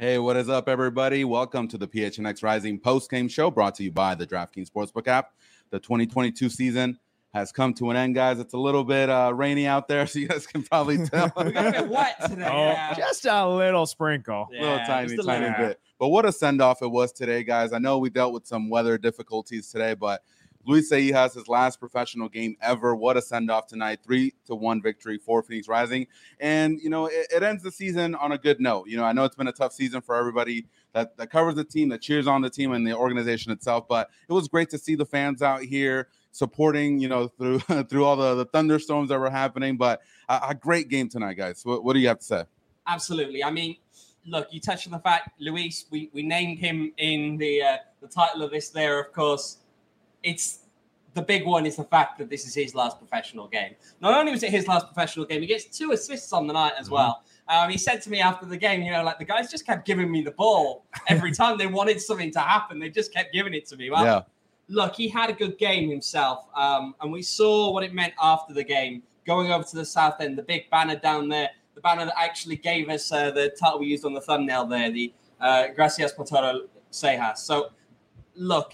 Hey, what is up, everybody? Welcome to the PHNX Rising post-game show brought to you by the DraftKings Sportsbook app. The 2022 season has come to an end, guys. It's a little bit rainy out there, so you guys can probably tell. We got a bit wet today. Just a little sprinkle. Little tiny bit. But what a send-off it was today, guys. I know we dealt with some weather difficulties today, but Luis Seijas, his last professional game ever. What a send-off tonight. 3-1 victory for Phoenix Rising. And, it ends the season on a good note. I know it's been a tough season for everybody that covers the team, that cheers on the team and the organization itself. But it was great to see the fans out here supporting, through all the thunderstorms that were happening. But a great game tonight, guys. What do you have to say? Absolutely. I mean, look, you touched on the fact, Luis, we named him in the title of this there, of course. It's the big one is the fact that this is his last professional game. Not only was it his last professional game, he gets 2 assists on the night as well. He said to me after the game, the guys just kept giving me the ball every time they wanted something to happen. They just kept giving it to me. Well, yeah. Look, he had a good game himself. And we saw what it meant after the game, going over to the south end, the big banner down there, the banner that actually gave us the title we used on the thumbnail there, the Gracias por todo, Seijas. So, look,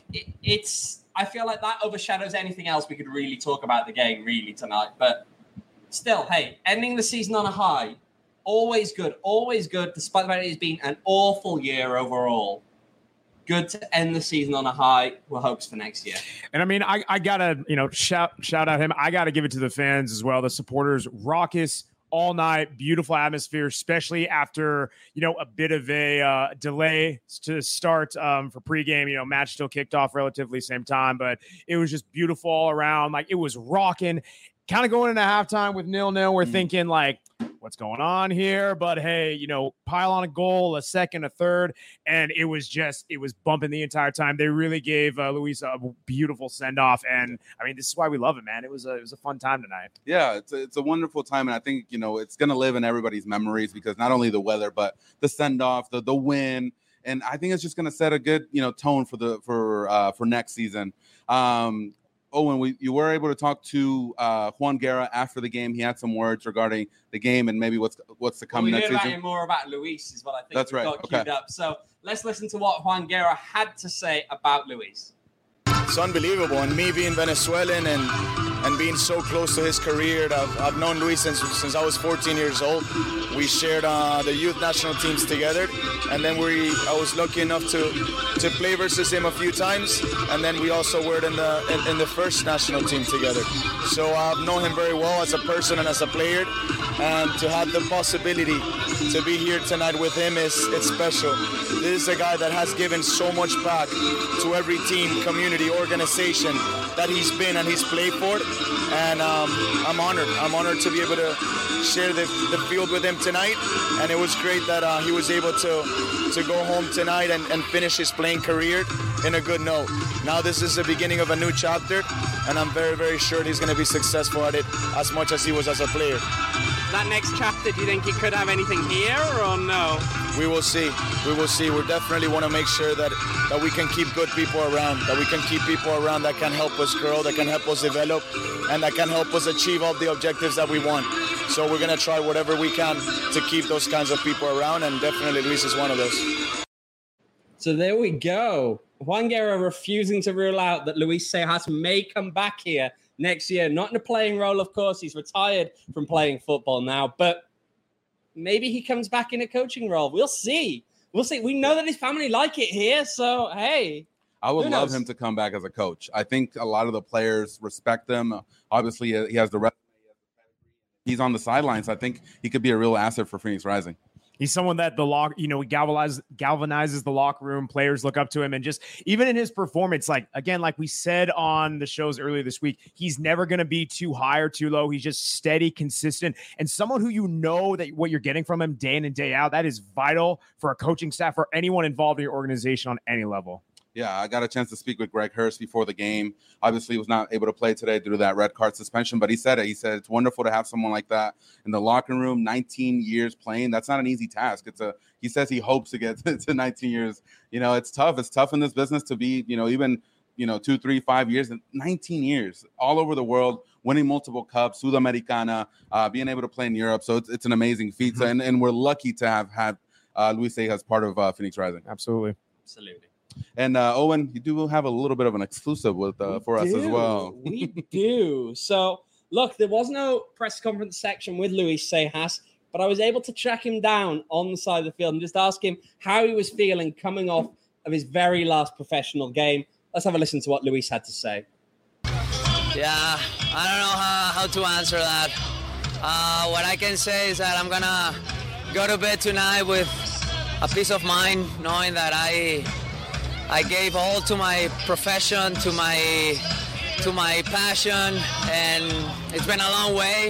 I feel like that overshadows anything else we could really talk about the game really tonight. But still, hey, ending the season on a high, always good, despite the fact it's been an awful year overall. Good to end the season on a high. We're hopes for next year. And I mean, I gotta, shout out him. I gotta give it to the fans as well, the supporters, raucous all night, beautiful atmosphere, especially after, a bit of a delay to start for pregame. Match still kicked off relatively same time, but it was just beautiful all around. Like, it was rocking. Kind of going into halftime with 0-0. We're thinking, what's going on here? But hey, pile on a goal, a second, a third, and it was bumping the entire time. They really gave Luis a beautiful send off, and I mean, this is why we love it, man. It was a fun time tonight. Yeah, it's a wonderful time, and I think it's gonna live in everybody's memories because not only the weather, but the send off, the win, and I think it's just gonna set a good tone for next season. Owen, you were able to talk to Juan Guerra after the game. He had some words regarding the game and maybe what's to come next season. We heard more about Luis is what I think. That's right. Got queued up. So let's listen to what Juan Guerra had to say about Luis. It's unbelievable, and me being Venezuelan and being so close to his career. I've known Luis since I was 14 years old. We shared the youth national teams together, and then I was lucky enough to play versus him a few times, and then we also were in the first national team together. So I've known him very well as a person and as a player, and to have the possibility to be here tonight with him it's special. This is a guy that has given so much back to every team, community, organization that he's been and he's played for, and I'm honored to be able to share the field with him tonight, and it was great that he was able to go home tonight and finish his playing career in a good note. Now this is the beginning of a new chapter, and I'm very, very sure he's going to be successful at it as much as he was as a player. That next chapter, do you think he could have anything here or no? We will see. We definitely want to make sure that we can keep good people around, that we can keep people around that can help us grow, that can help us develop, and that can help us achieve all the objectives that we want. So we're going to try whatever we can to keep those kinds of people around, and definitely Luis is one of those. So there we go. Juan Guerra refusing to rule out that Luis Seijas may come back here next year. Not in a playing role, of course. He's retired from playing football now, but maybe he comes back in a coaching role. We'll see. We know that his family like it here, so hey. I would love him to come back as a coach. I think a lot of the players respect him. Obviously, he has the resume. He's on the sidelines. I think he could be a real asset for Phoenix Rising. He's someone that he galvanizes the locker room. Players look up to him, and just even in his performance, like we said on the shows earlier this week, he's never going to be too high or too low. He's just steady, consistent, and someone who that what you're getting from him day in and day out. That is vital for a coaching staff or anyone involved in your organization on any level. Yeah, I got a chance to speak with Greg Hurst before the game. Obviously, he was not able to play today due to that red card suspension, but he said it. He said it's wonderful to have someone like that in the locker room, 19 years playing. That's not an easy task. He says he hopes to get to 19 years. It's tough. It's tough in this business to be, even 2, 3, 5 years, 19 years all over the world, winning multiple cups, Sudamericana, being able to play in Europe. So it's an amazing feat. Mm-hmm. And we're lucky to have had Luis Cejas, part of Phoenix Rising. Absolutely. And Owen, you do have a little bit of an exclusive with for us as well. We do. So, look, there was no press conference section with Luis Cejas, but I was able to track him down on the side of the field and just ask him how he was feeling coming off of his very last professional game. Let's have a listen to what Luis had to say. Yeah, I don't know how to answer that. What I can say is that I'm going to go to bed tonight with a peace of mind, knowing that I gave all to my profession, to my passion, and it's been a long way.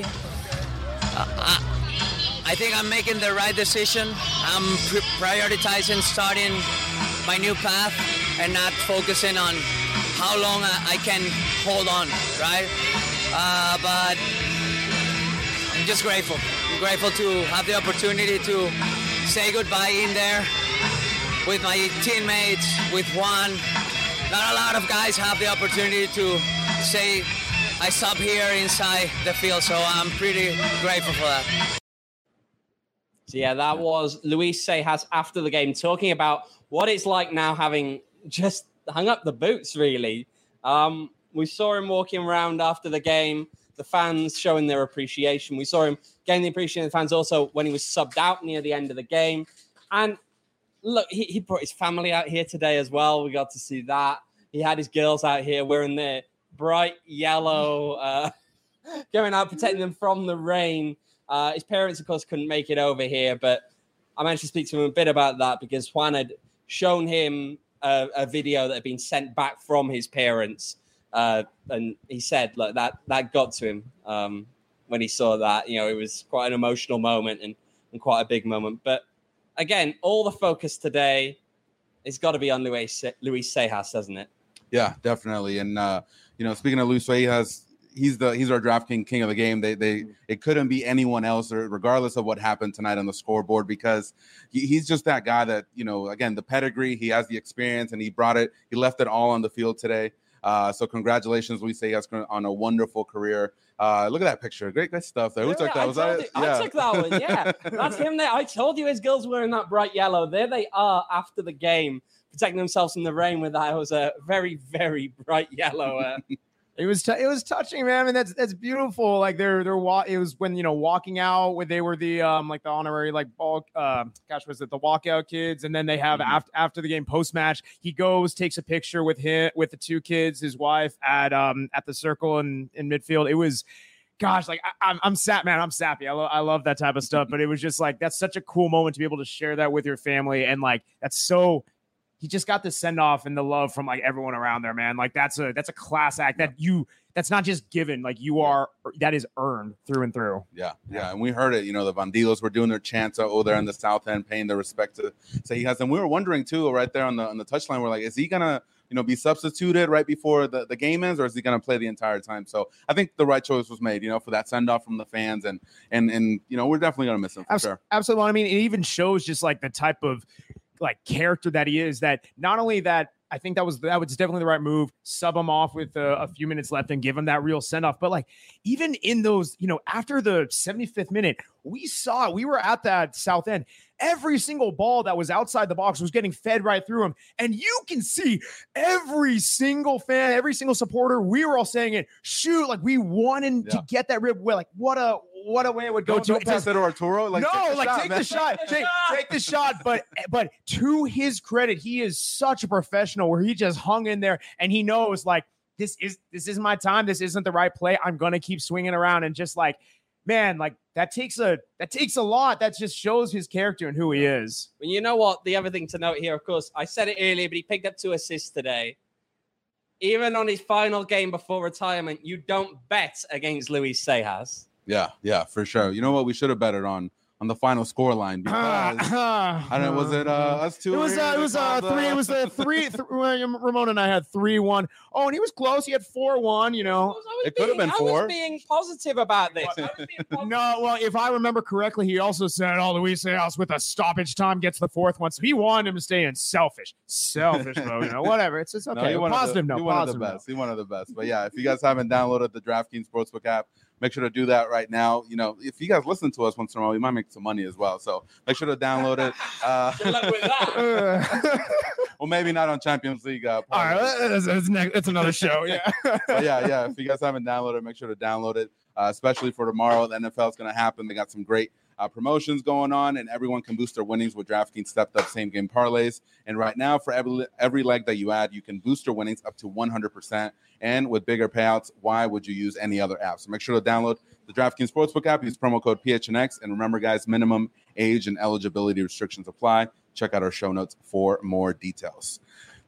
I think I'm making the right decision. I'm prioritizing starting my new path and not focusing on how long I can hold on, right? But I'm just grateful. I'm grateful to have the opportunity to say goodbye in there with my teammates, with Juan. Not a lot of guys have the opportunity to say I stop here inside the field, so I'm pretty grateful for that. So yeah, that was Luis Cejas after the game talking about what it's like now having just hung up the boots, really. We saw him walking around after the game, the fans showing their appreciation. We saw him getting the appreciation of the fans also when he was subbed out near the end of the game. And look, he brought his family out here today as well. We got to see that. He had his girls out here wearing their bright yellow, going out, protecting them from the rain. His parents, of course, couldn't make it over here, but I managed to speak to him a bit about that because Juan had shown him a video that had been sent back from his parents. And he said, look, that got to him when he saw that. You know, it was quite an emotional moment and quite a big moment. But again, all the focus today has got to be on Luis Cejas, doesn't it? Yeah, definitely. And, speaking of Luis Cejas, he's our DraftKings king of the game. It couldn't be anyone else, or regardless of what happened tonight on the scoreboard, because he's just that guy that, again, the pedigree, he has the experience, and he left it all on the field today. So congratulations, Luis Cejas, on a wonderful career. Look at that picture. Great stuff there. Who took that? I took that one. Yeah, that's him there. I told you his girls wearing that bright yellow. There they are after the game, protecting themselves from the rain with that. It was a very, very bright yellow. It was touching, man. I mean, that's beautiful. Like it was when walking out when they were the like the honorary ball was it the walkout kids, and then they have after the game post match he goes takes a picture with the two kids, his wife at the circle in midfield. It was, gosh, like I'm sad, man. I'm sappy. I love that type of stuff. But it was just like that's such a cool moment to be able to share that with your family, and like that's so. He just got the send off and the love from everyone around there, man. Like that's a class act that's not just given. Like that is earned through and through. Yeah. And we heard it. The Vandilos were doing their chants over there in the South End, paying their respect to Cejas. And we were wondering too, right there on the touchline, we're like, is he gonna be substituted right before the game ends, or is he gonna play the entire time? So I think the right choice was made, for that send off from the fans, and we're definitely gonna miss him for sure. Absolutely. I mean, it even shows just the type of character that he is, that not only that I think that was definitely the right move, sub him off with a few minutes left and give him that real send off. But even in those, after the 75th minute, we were at that South End. Every single ball that was outside the box was getting fed right through him. And you can see every single fan, every single supporter, we were all saying it, shoot, we wanted to get that rib. We're like, what a way it would go. Don't pass it to Arturo. Take the shot. Take the shot. But to his credit, he is such a professional where he just hung in there and he knows this is my time. This isn't the right play. I'm going to keep swinging around, and just man, that takes a lot. That just shows his character and who he is. Well, you know what? The other thing to note here, of course, I said it earlier, but he picked up 2 assists today. Even on his final game before retirement, you don't bet against Luis Cejas. Yeah, for sure. You know what? We should have betted on the final score line, because I don't know, was it us two? It was 3. It was the 3. Ramon and I had 3-1. Oh, and he was close. He had 4-1. It could have been 4. I was being positive about this. No, well, if I remember correctly, he also said, Luis Cejas with a stoppage time gets the 4th one. So he wanted him to stay in selfish mode. Whatever. It's okay. No, he wanted the best. He wanted the best. But yeah, if you guys haven't downloaded the DraftKings Sportsbook app, make sure to do that right now. You know, if you guys listen to us once in a while, we might make some money as well. So make sure to download it. Good luck with that. Well, maybe not on Champions League. All right, that's another show. Yeah. But yeah. If you guys haven't downloaded it, make sure to download it, especially for tomorrow. The NFL is going to happen. They got some great promotions going on, and everyone can boost their winnings with DraftKings stepped up same game parlays. And right now, for every leg that you add, you can boost your winnings up to 100%. And with bigger payouts, why would you use any other app? So make sure to download the DraftKings Sportsbook app. Use promo code PHNX. And remember, guys, minimum age and eligibility restrictions apply. Check out our show notes for more details.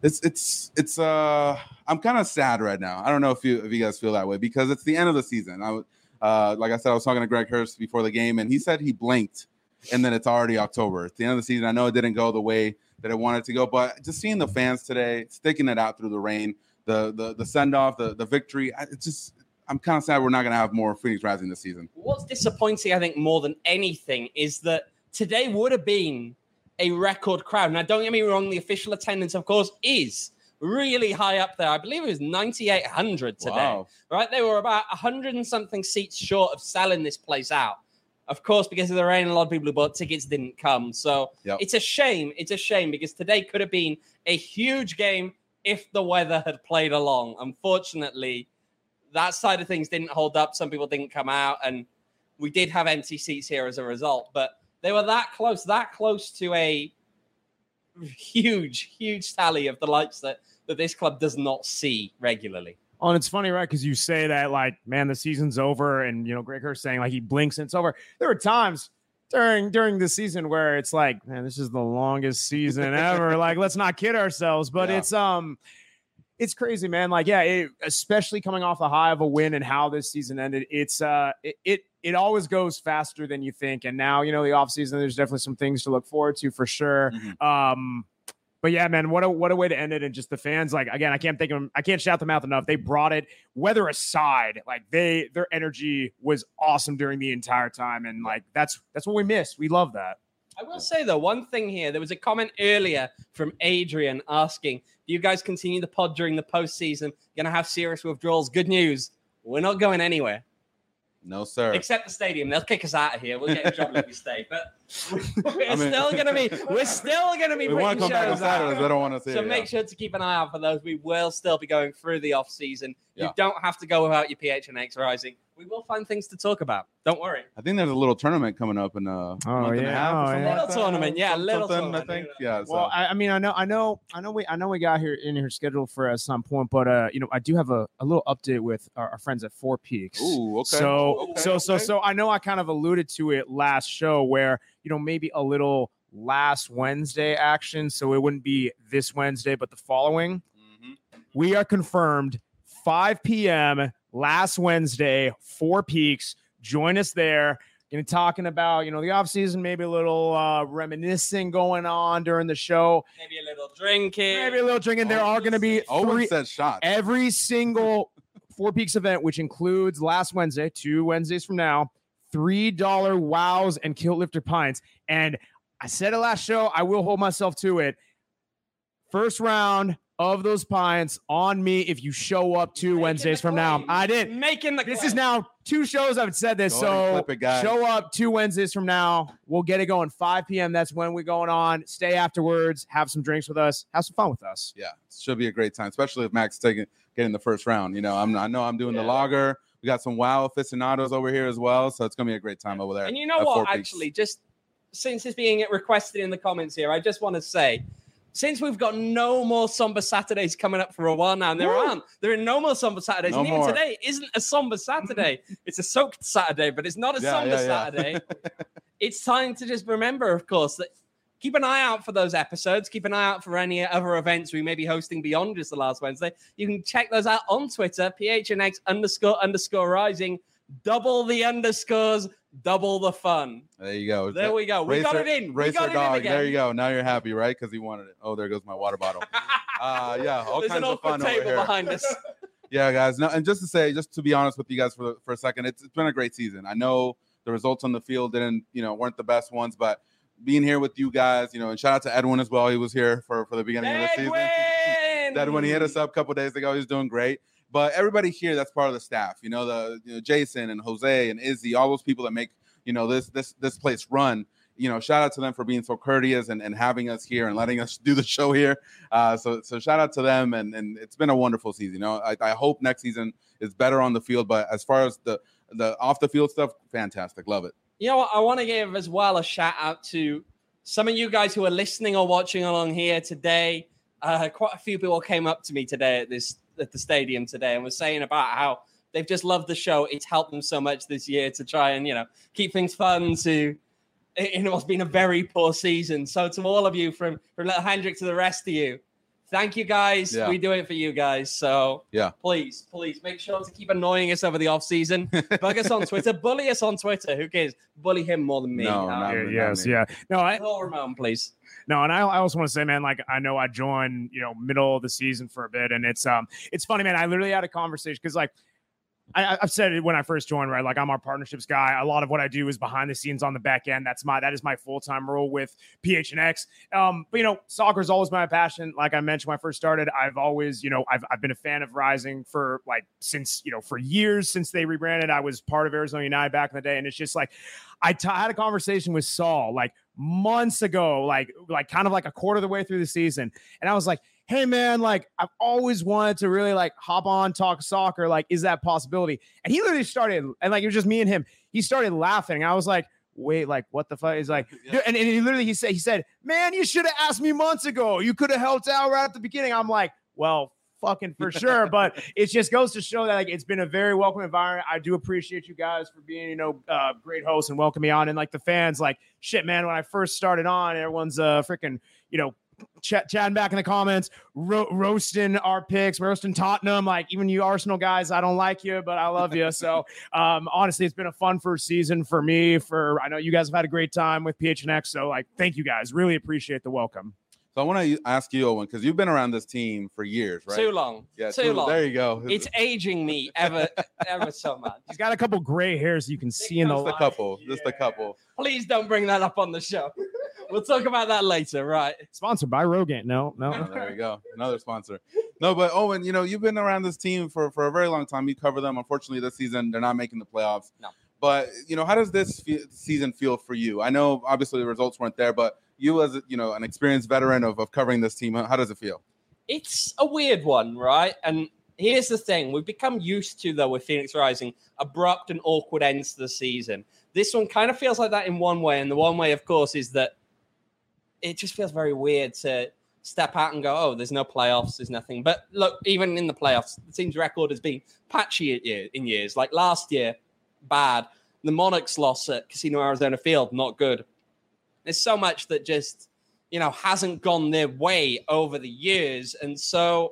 I'm kind of sad right now. I don't know if you guys feel that way, because it's the end of the season. Like I said, I was talking to Greg Hurst before the game, and he said he blinked, and then it's already October. It's the end of the season. I know it didn't go the way that it wanted to go, but just seeing the fans today, sticking it out through the rain, the send-off, the victory, I'm kind of sad we're not going to have more Phoenix Rising this season. What's disappointing, I think, more than anything, is that today would have been a record crowd. Now, don't get me wrong, the official attendance, of course, is really high up there. I believe it was 9,800 today. Wow. Right? They were about 100 and something seats short of selling this place out. Of course, because of the rain, a lot of people who bought tickets didn't come. So It's a shame. It's a shame, because today could have been a huge game if the weather had played along. Unfortunately, that side of things didn't hold up. Some people didn't come out, and we did have empty seats here as a result. But they were that close to a huge tally of the lights that this club does not see regularly. Oh, and it's funny, right? Because you say that, like, man, the season's over, and Greg Hurst saying like he blinks and it's over. There were times during the season where it's like, man, this is the longest season ever. Like, let's not kid ourselves. But it's crazy, man. Like, especially coming off the high of a win and how this season ended, it always goes faster than you think. And now, the offseason, there's definitely some things to look forward to for sure. Mm-hmm. But yeah, man, what a way to end it. And just the fans, like, again, I can't shout them out enough. They brought it, weather aside, like their energy was awesome during the entire time. And like, that's what we miss. We love that. I will say, though, one thing here. There was a comment earlier from Adrian asking, do you guys continue the pod during the postseason? Going to have serious withdrawals? Good news. We're not going anywhere. No, sir. Except the stadium. They'll kick us out of here. We'll get in trouble if we stay. But we're still going to be we want to come back on Saturdays. I don't want to see it. So make sure to keep an eye out for those. We will still be going through the off season. You don't have to go without your PHNX Rising. We will find things to talk about. Don't worry. I think there's a little tournament coming up in a month and a half. A little tournament, I think. Yeah. So. Well, I mean, I know we got here in here scheduled for at some point, but I do have a little update with our friends at Four Peaks. Ooh, okay. So I know I kind of alluded to it last show where maybe a little last Wednesday action, so it wouldn't be this Wednesday, but the following. Mm-hmm. We are confirmed 5 p.m. last Wednesday, Four Peaks. Join us there. Going to talking about, the offseason, maybe a little reminiscing going on during the show. Maybe a little drinking. There are going to be shots. Every single Four Peaks event, which includes last Wednesday, 2 Wednesdays from now, $3 wows and kilt lifter pints. And I said it last show, I will hold myself to it. First round of those pints on me if you show up 2 Wednesdays from now. I did. This is now 2 shows I've said this. So show up 2 Wednesdays from now. We'll get it going 5 p.m. That's when we're going on. Stay afterwards. Have some drinks with us. Have some fun with us. Yeah, it should be a great time, especially if Max getting the first round. I know I'm doing the lager. We got some WoW aficionados over here as well, so it's gonna be a great time over there. And you know what? Actually, just since it's being requested in the comments here, I just want to say, since we've got no more Somber Saturdays coming up for a while now, and there are no more Somber Saturdays. No and even more. Today isn't a Somber Saturday. It's a soaked Saturday, but it's not a Somber Saturday. It's time to just remember, of course, that keep an eye out for those episodes. Keep an eye out for any other events we may be hosting beyond just the last Wednesday. You can check those out on Twitter, PHNX__rising. Double the underscores, double the fun. There you go. There we go. We got it in. Racer dog. There you go. Now you're happy, right? Because he wanted it. Oh, there goes my water bottle. All There's kinds of fun over table here. behind us. Yeah, guys. No, and just to be honest with you guys for a second, it's been a great season. I know the results on the field weren't the best ones, but being here with you guys, and shout out to Edwin as well. He was here for the beginning of the season. Edwin, he hit us up a couple days ago. He's doing great. But everybody here, that's part of the staff. Jason and Jose and Izzy, all those people that make this place run. Shout out to them for being so courteous and having us here and letting us do the show here. So shout out to them, and it's been a wonderful season. I hope next season is better on the field, but as far as the off the field stuff, fantastic, love it. You know what? I want to give as well a shout out to some of you guys who are listening or watching along here today. Quite a few people came up to me today at the stadium today and was saying about how they've just loved the show. It's helped them so much this year to try and keep things fun. It's been a very poor season. So to all of you, from Little Hendrik to the rest of you, thank you guys. Yeah. We do it for you guys. So yeah, please make sure to keep annoying us over the off season. Bug us on Twitter. Bully us on Twitter. Who cares? Bully him more than me. No, Ramon, please. No, and I also want to say, man, like I know I joined, middle of the season for a bit, and it's funny, man. I literally had a conversation because like. I've said it when I first joined, right? Like I'm our partnerships guy. A lot of what I do is behind the scenes on the back end. That is my full-time role with PHNX. But soccer is always my passion. Like I mentioned when I first started, I've always, I've been a fan of Rising for like since for years since they rebranded. I was part of Arizona United back in the day, and it's just like I had a conversation with Saul like months ago, like kind of like a quarter of the way through the season, and I was like, hey man, like I've always wanted to really like hop on, talk soccer. Like, is that a possibility? And he literally started, and like, it was just me and him. He started laughing. I was like, wait, like what the fuck? He's like, yeah. And he said, man, you should have asked me months ago. You could have helped out right at the beginning. I'm like, well, fucking for sure. But it just goes to show that like, it's been a very welcome environment. I do appreciate you guys for being, great hosts and welcoming me on. And like the fans, like shit, man, when I first started on, everyone's freaking, chatting back in the comments, roasting our picks, roasting Tottenham. Like even you Arsenal guys, I don't like you, but I love you. So honestly, it's been a fun first season for me. I know you guys have had a great time with PHNX. So like, thank you guys. Really appreciate the welcome. So I want to ask you, Owen, because you've been around this team for years, right? Too long. Yeah, too long. There you go. It's aging me ever so much. He's got a couple gray hairs you can see in the light. Just a couple. Please don't bring that up on the show. We'll talk about that later, right? Sponsored by Rogaine. No. Oh, there you go. Another sponsor. No, but Owen, you've been around this team for a very long time. You cover them. Unfortunately, this season, they're not making the playoffs. No. But, how does this season feel for you? I know, obviously, the results weren't there, but you as, an experienced veteran of covering this team, how does it feel? It's a weird one, right? And here's the thing. We've become used to, though, with Phoenix Rising, abrupt and awkward ends to the season. This one kind of feels like that in one way. And the one way, of course, is that it just feels very weird to step out and go, oh, there's no playoffs, there's nothing. But look, even in the playoffs, the team's record has been patchy in years. Like last year, bad. The Monarchs loss at Casino Arizona Field, not good. There's so much that just, hasn't gone their way over the years. And so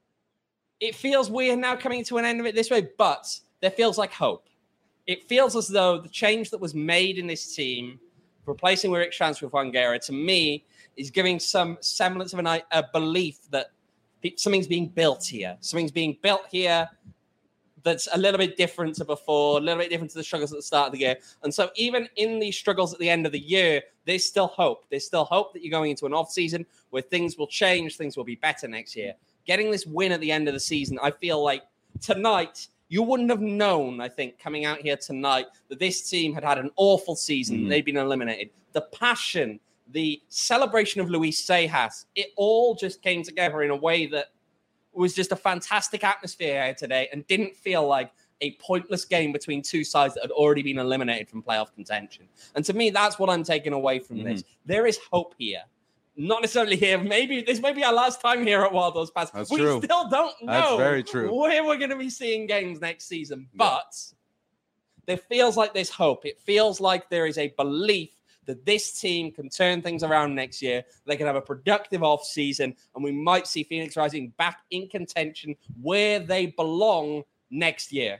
it feels weird now coming to an end of it this way, but there feels like hope. It feels as though the change that was made in this team, replacing Rick Schantz with Wangera, to me, is giving some semblance of a belief that something's being built here. Something's being built here that's a little bit different to before, a little bit different to the struggles at the start of the year. And so even in these struggles at the end of the year, there's still hope. There's still hope that you're going into an off-season where things will change, things will be better next year. Getting this win at the end of the season, I feel like tonight, you wouldn't have known, I think, coming out here tonight, that this team had an awful season. Mm-hmm. They'd been eliminated. The passion, the celebration of Luis Sejas, it all just came together in a way that was just a fantastic atmosphere here today and didn't feel like a pointless game between two sides that had already been eliminated from playoff contention. And to me, that's what I'm taking away from this. There is hope here. Not necessarily here. Maybe this may be our last time here at Wild Those Pass. That's we true. Still don't know. That's very true. Where we're going to be seeing games next season. But there feels like there's hope. It feels like there is a belief that this team can turn things around next year. They can have a productive off season, and we might see Phoenix Rising back in contention where they belong next year.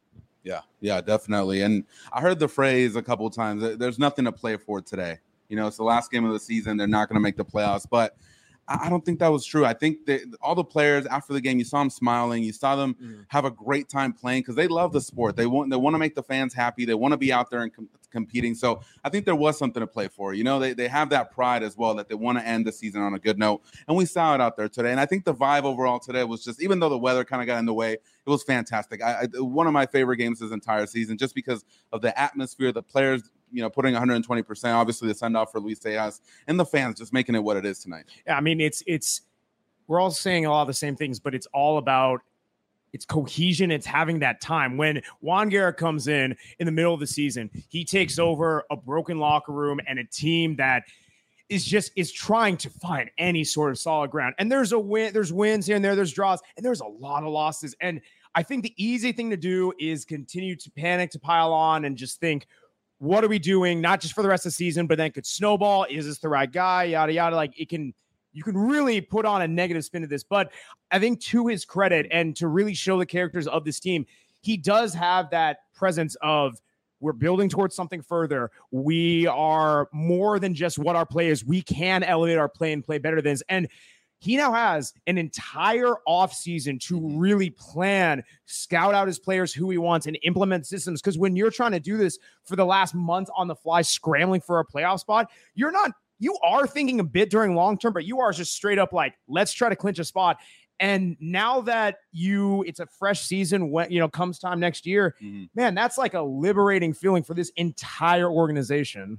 Yeah, definitely. And I heard the phrase a couple of times, there's nothing to play for today. It's the last game of the season. They're not going to make the playoffs. But I don't think that was true. I think that all the players after the game, you saw them smiling, you saw them have a great time playing because they love the sport. They want to make the fans happy. They want to be out there and competing. So I think there was something to play for. You know, they have that pride as well that they want to end the season on a good note. And we saw it out there today. And I think the vibe overall today was just, even though the weather kind of got in the way, it was fantastic. One of my favorite games this entire season, just because of the atmosphere, the players, you know, putting 120%, obviously the send off for Luis Sejas, and the fans just making it what it is tonight. Yeah, I mean, it's we're all saying a lot of the same things, but it's all about it's cohesion. It's having that time. When Juan Guerra comes in the middle of the season, he takes over a broken locker room and a team that is trying to find any sort of solid ground. And there's wins here and there, there's draws, and there's a lot of losses. And I think the easy thing to do is continue to panic, to pile on, and just think, what are we doing? Not just for the rest of the season, but then could snowball. Is this the right guy? Yada, yada. Like you can really put on a negative spin to this. But I think to his credit and to really show the characters of this team, he does have that presence of we're building towards something further. We are more than just what our play is. We can elevate our play and play better than this. And he now has an entire offseason to really plan, scout out his players, who he wants, and implement systems. Because when you're trying to do this for the last month on the fly, scrambling for a playoff spot, you are thinking a bit during long term, but you are just straight up like, let's try to clinch a spot. And now that it's a fresh season, when comes time next year, man, that's like a liberating feeling for this entire organization.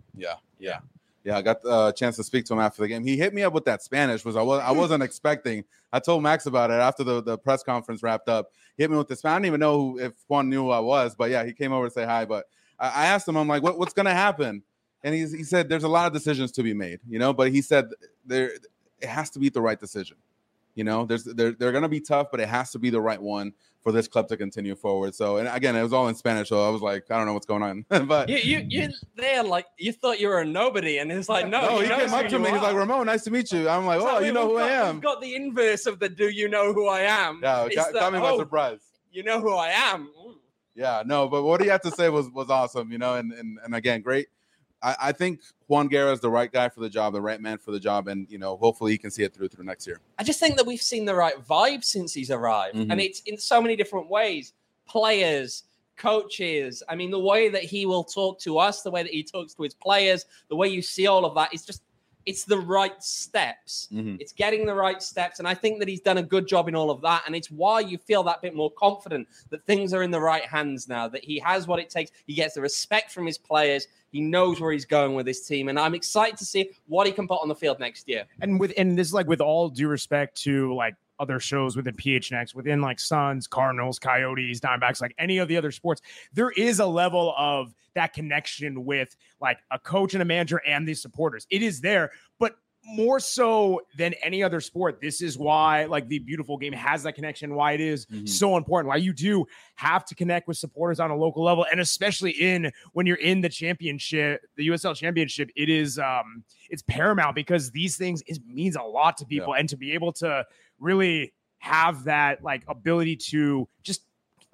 Yeah, I got a chance to speak to him after the game. He hit me up with that Spanish, I wasn't expecting. I told Max about it after the press conference wrapped up. He hit me with the Spanish. I didn't even know if Juan knew who I was, but yeah, he came over to say hi. But I asked him, I'm like, what's going to happen? And he said there's a lot of decisions to be made, but he said it has to be the right decision. They're going to be tough, but it has to be the right one for this club to continue forward. So, and again, it was all in Spanish, so I was like, I don't know what's going on. But you there, like you thought you were a nobody, and it's like, no, he came up to me. He's like, Ramon, nice to meet you. I'm like, oh, you know who I am. We've got the inverse of the do you know who I am? Yeah, got me by surprise. You know who I am. Yeah, no, but what he had to say was awesome, and again, great. I think Juan Guerra is the right guy for the job, the right man for the job, and hopefully he can see it through next year. I just think that we've seen the right vibe since he's arrived, and it's in so many different ways. Players, coaches. I mean, the way that he will talk to us, the way that he talks to his players, the way you see all of that is just. It's the right steps. It's getting the right steps. And I think that he's done a good job in all of that. And it's why you feel that bit more confident that things are in the right hands now, that he has what it takes. He gets the respect from his players. He knows where he's going with his team. And I'm excited to see what he can put on the field next year. And this is like with all due respect to like other shows within PHNX, within like Suns, Cardinals, Coyotes, Diamondbacks, like any of the other sports, there is a level of that connection with like a coach and a manager and the supporters. It is there, but more so than any other sport. This is why like the beautiful game has that connection, why it is so important, why you do have to connect with supporters on a local level. And especially when you're in the championship, the USL championship, it is it's paramount because these things means a lot to people. And to be able to really have that like ability to just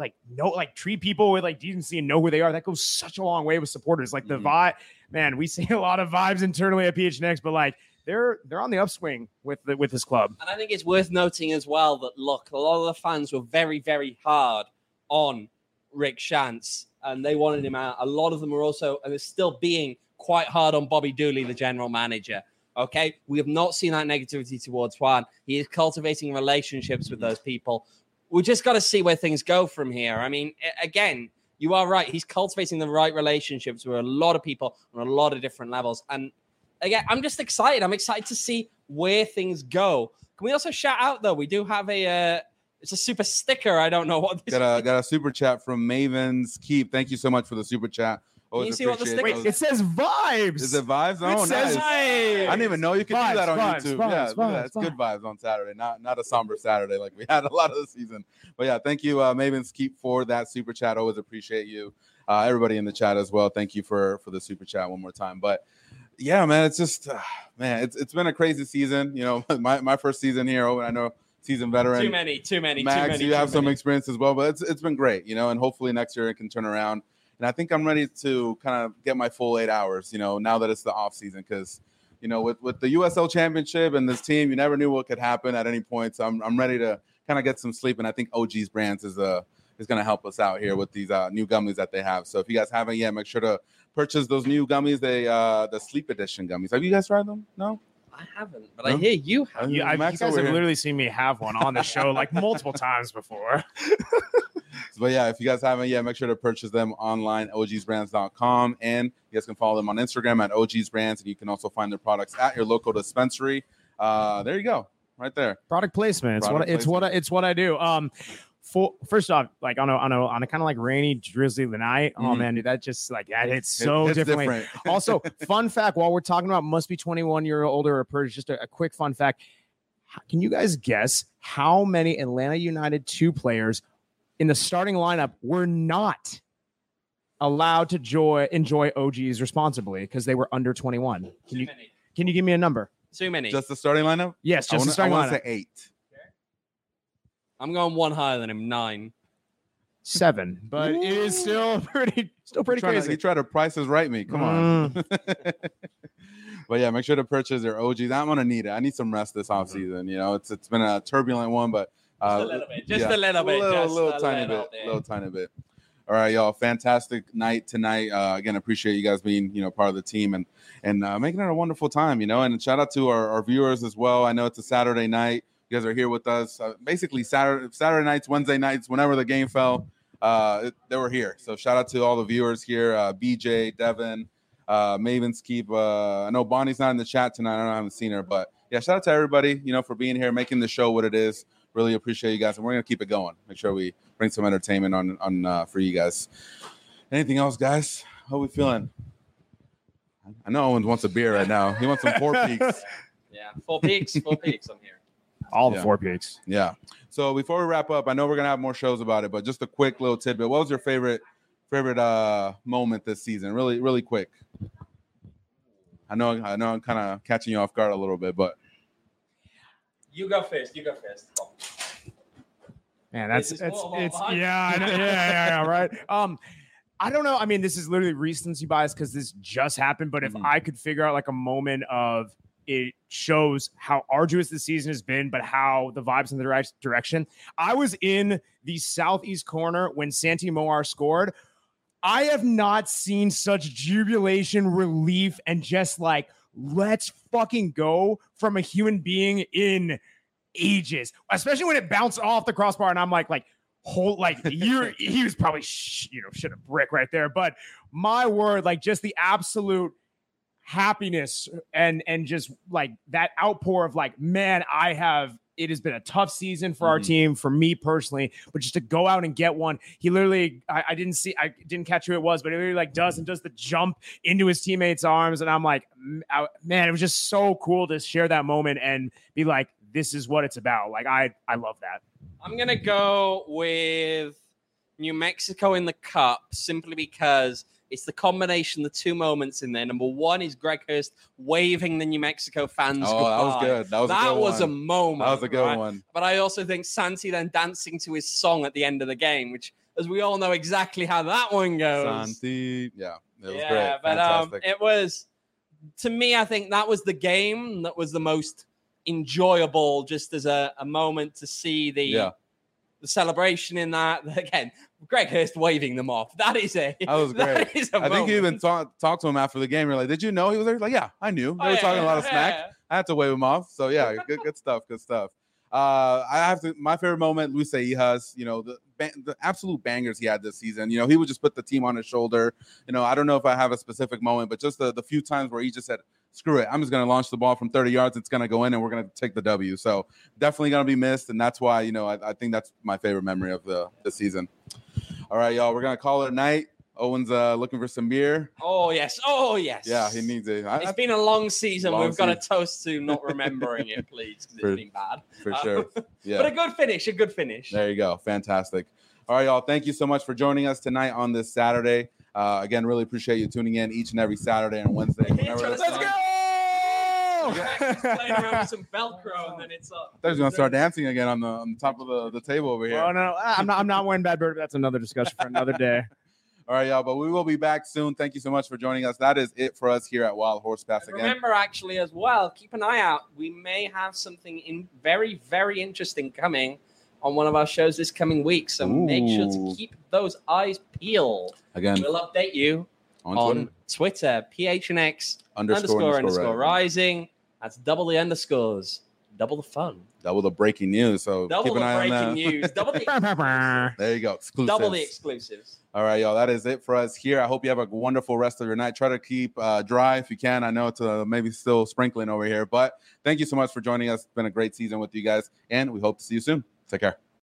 treat people with like decency and know who they are, that goes such a long way with supporters. Like the vibe, man, we see a lot of vibes internally at PHNX, but like they're on the upswing with this club. And I think it's worth noting as well that look, a lot of the fans were very, very hard on Rick Schantz and they wanted him out. A lot of them are also, and they're still being quite hard on Bobby Dooley, the general manager. Okay, we have not seen that negativity towards Juan. He is cultivating relationships with those people. We just got to see where things go from here. I mean, again, you are right. He's cultivating the right relationships with a lot of people on a lot of different levels. And again, I'm just excited. I'm excited to see where things go. Can we also shout out, though? We do have it's a super sticker. I don't know what this is. Got a super chat from Maven's Keep. Thank you so much for the super chat. Can you see what the sticker is? It says vibes. Is it vibes? Oh, it says nice. Vibes. I didn't even know you could do that on YouTube. Vibes, It's good vibes on Saturday, not a somber Saturday like we had a lot of the season. But yeah, thank you, Maven's Keep, for that super chat. Always appreciate you. Everybody in the chat as well. Thank you for the super chat one more time. But yeah, man, it's just it's been a crazy season. My first season here. I know season veteran. Too many. Max, you have some experience as well, but it's been great. And hopefully next year it can turn around. And I think I'm ready to kind of get my full 8 hours, now that it's the off season, because you know, with the USL Championship and this team, you never knew what could happen at any point. So I'm ready to kind of get some sleep, and I think OG's Brands is going to help us out here with these new gummies that they have. So if you guys haven't yet, make sure to purchase those new gummies. The Sleep Edition gummies. Have you guys tried them? No. I haven't, but I hear you have. You guys have literally seen me have one on the show like multiple times before. But yeah, if you guys haven't yet, make sure to purchase them online, ogsbrands.com. And you guys can follow them on Instagram at ogsbrands. And you can also find their products at your local dispensary. There you go. Right there. Product placement. It's what I do. First off, like on a kind of like rainy, drizzly night. Oh man, dude, that just like that hits so differently. Different. Also, fun fact: while we're talking about must be 21 year older or purge, just a quick fun fact. Can you guys guess how many Atlanta United 2 players in the starting lineup were not allowed to enjoy OGs responsibly because they were under 21? Can you give me a number? Too many. Just the starting lineup? Yes, just the starting lineup. I want to say 8. I'm going one higher than him, 9. 7, but it is still pretty crazy. You try to Price is Right me. Come on. But yeah, make sure to purchase their OGs. I'm gonna need it. I need some rest this off season. You know, it's been a turbulent one, but just a little bit. Just a little tiny bit. All right, y'all. Fantastic night tonight. Again, appreciate you guys being, you know, part of the team and making it a wonderful time, you know, and shout out to our viewers as well. I know it's a Saturday night. You guys are here with us. Basically Saturday nights, Wednesday nights, whenever the game fell, they were here. So shout out to all the viewers here. BJ, Devin, Maven's Keep. I know Bonnie's not in the chat tonight. I haven't seen her, but yeah, shout out to everybody, you know, for being here, making the show what it is. Really appreciate you guys, and we're gonna keep it going. Make sure we bring some entertainment on for you guys. Anything else, guys? How are we feeling? I know Owen wants a beer right now. He wants some Four Peaks. Yeah, Four Peaks. I'm here. All the 4 Peaks. Yeah. So before we wrap up, I know we're gonna have more shows about it, but just a quick little tidbit. What was your favorite moment this season? Really, really quick. I know I'm kind of catching you off guard a little bit, but you go first. Man, it's yeah, right. I don't know. I mean, this is literally recency bias because this just happened. But if I could figure out like a moment of it shows how arduous the season has been, but how the vibes in the right direction. I was in the southeast corner when Santi Moar scored. I have not seen such jubilation, relief, and just like, let's fucking go from a human being in ages, especially when it bounced off the crossbar. And I'm like, he was probably, shit a brick right there. But my word, like just the absolute happiness and just like that outpour of like, man, it has been a tough season for our team, for me personally, but just to go out and get one. He literally, I didn't catch who it was, but he literally like does the jump into his teammates' arms. And I'm like, man, it was just so cool to share that moment and be like, this is what it's about. Like, I love that. I'm going to go with New Mexico in the Cup simply because it's the combination, the two moments in there. Number one is Greg Hurst waving the New Mexico fans goodbye. That was good. That was a moment. That was a good one. But I also think Santi then dancing to his song at the end of the game, which, as we all know exactly how that one goes. Santi. Yeah, it was great. But fantastic. It was, to me, I think that was the game that was the most enjoyable, just as a moment to see the celebration in that. Again, Greg Hurst waving them off. That was great. I think you even talked to him after the game. You're like, did you know he was there? He's like, yeah, I knew. They were talking a lot of smack. I had to wave him off. So yeah, good stuff. Good stuff. My favorite moment, Luis Seijas, the absolute bangers he had this season. He would just put the team on his shoulder. I don't know if I have a specific moment, but just the few times where he just said, screw it, I'm just going to launch the ball from 30 yards. It's going to go in and we're going to take the W. So definitely going to be missed. And that's why, I think that's my favorite memory of the season. All right, y'all, we're going to call it a night. Owen's looking for some beer. Oh, yes. Yeah, he needs it. It's been a long season. We've got a toast to not remembering it, please, because it's been bad. For sure. Yeah. But a good finish. There you go. Fantastic. All right, y'all, thank you so much for joining us tonight on this Saturday. Again, really appreciate you tuning in each and every Saturday and Wednesday. Let's go! Playing around with some Velcro, and then it's up. I thought he was going to start dancing again on the top of the table over here. Oh, no, I'm not wearing Bad Bird. That's another discussion for another day. All right, y'all. But we will be back soon. Thank you so much for joining us. That is it for us here at Wild Horse Pass again. Remember, actually, as well, keep an eye out. We may have something very, very interesting coming on one of our shows this coming week. So make sure to keep those eyes peeled. Again, we'll update you on Twitter, PHNX _ rising. That's double the underscores, double the fun. Double the breaking news. So double keep an eye on that. News. Double the there you go. Exclusives. Double the exclusives. All right, y'all. That is it for us here. I hope you have a wonderful rest of your night. Try to keep dry if you can. I know it's maybe still sprinkling over here, but thank you so much for joining us. It's been a great season with you guys, and we hope to see you soon. Take care.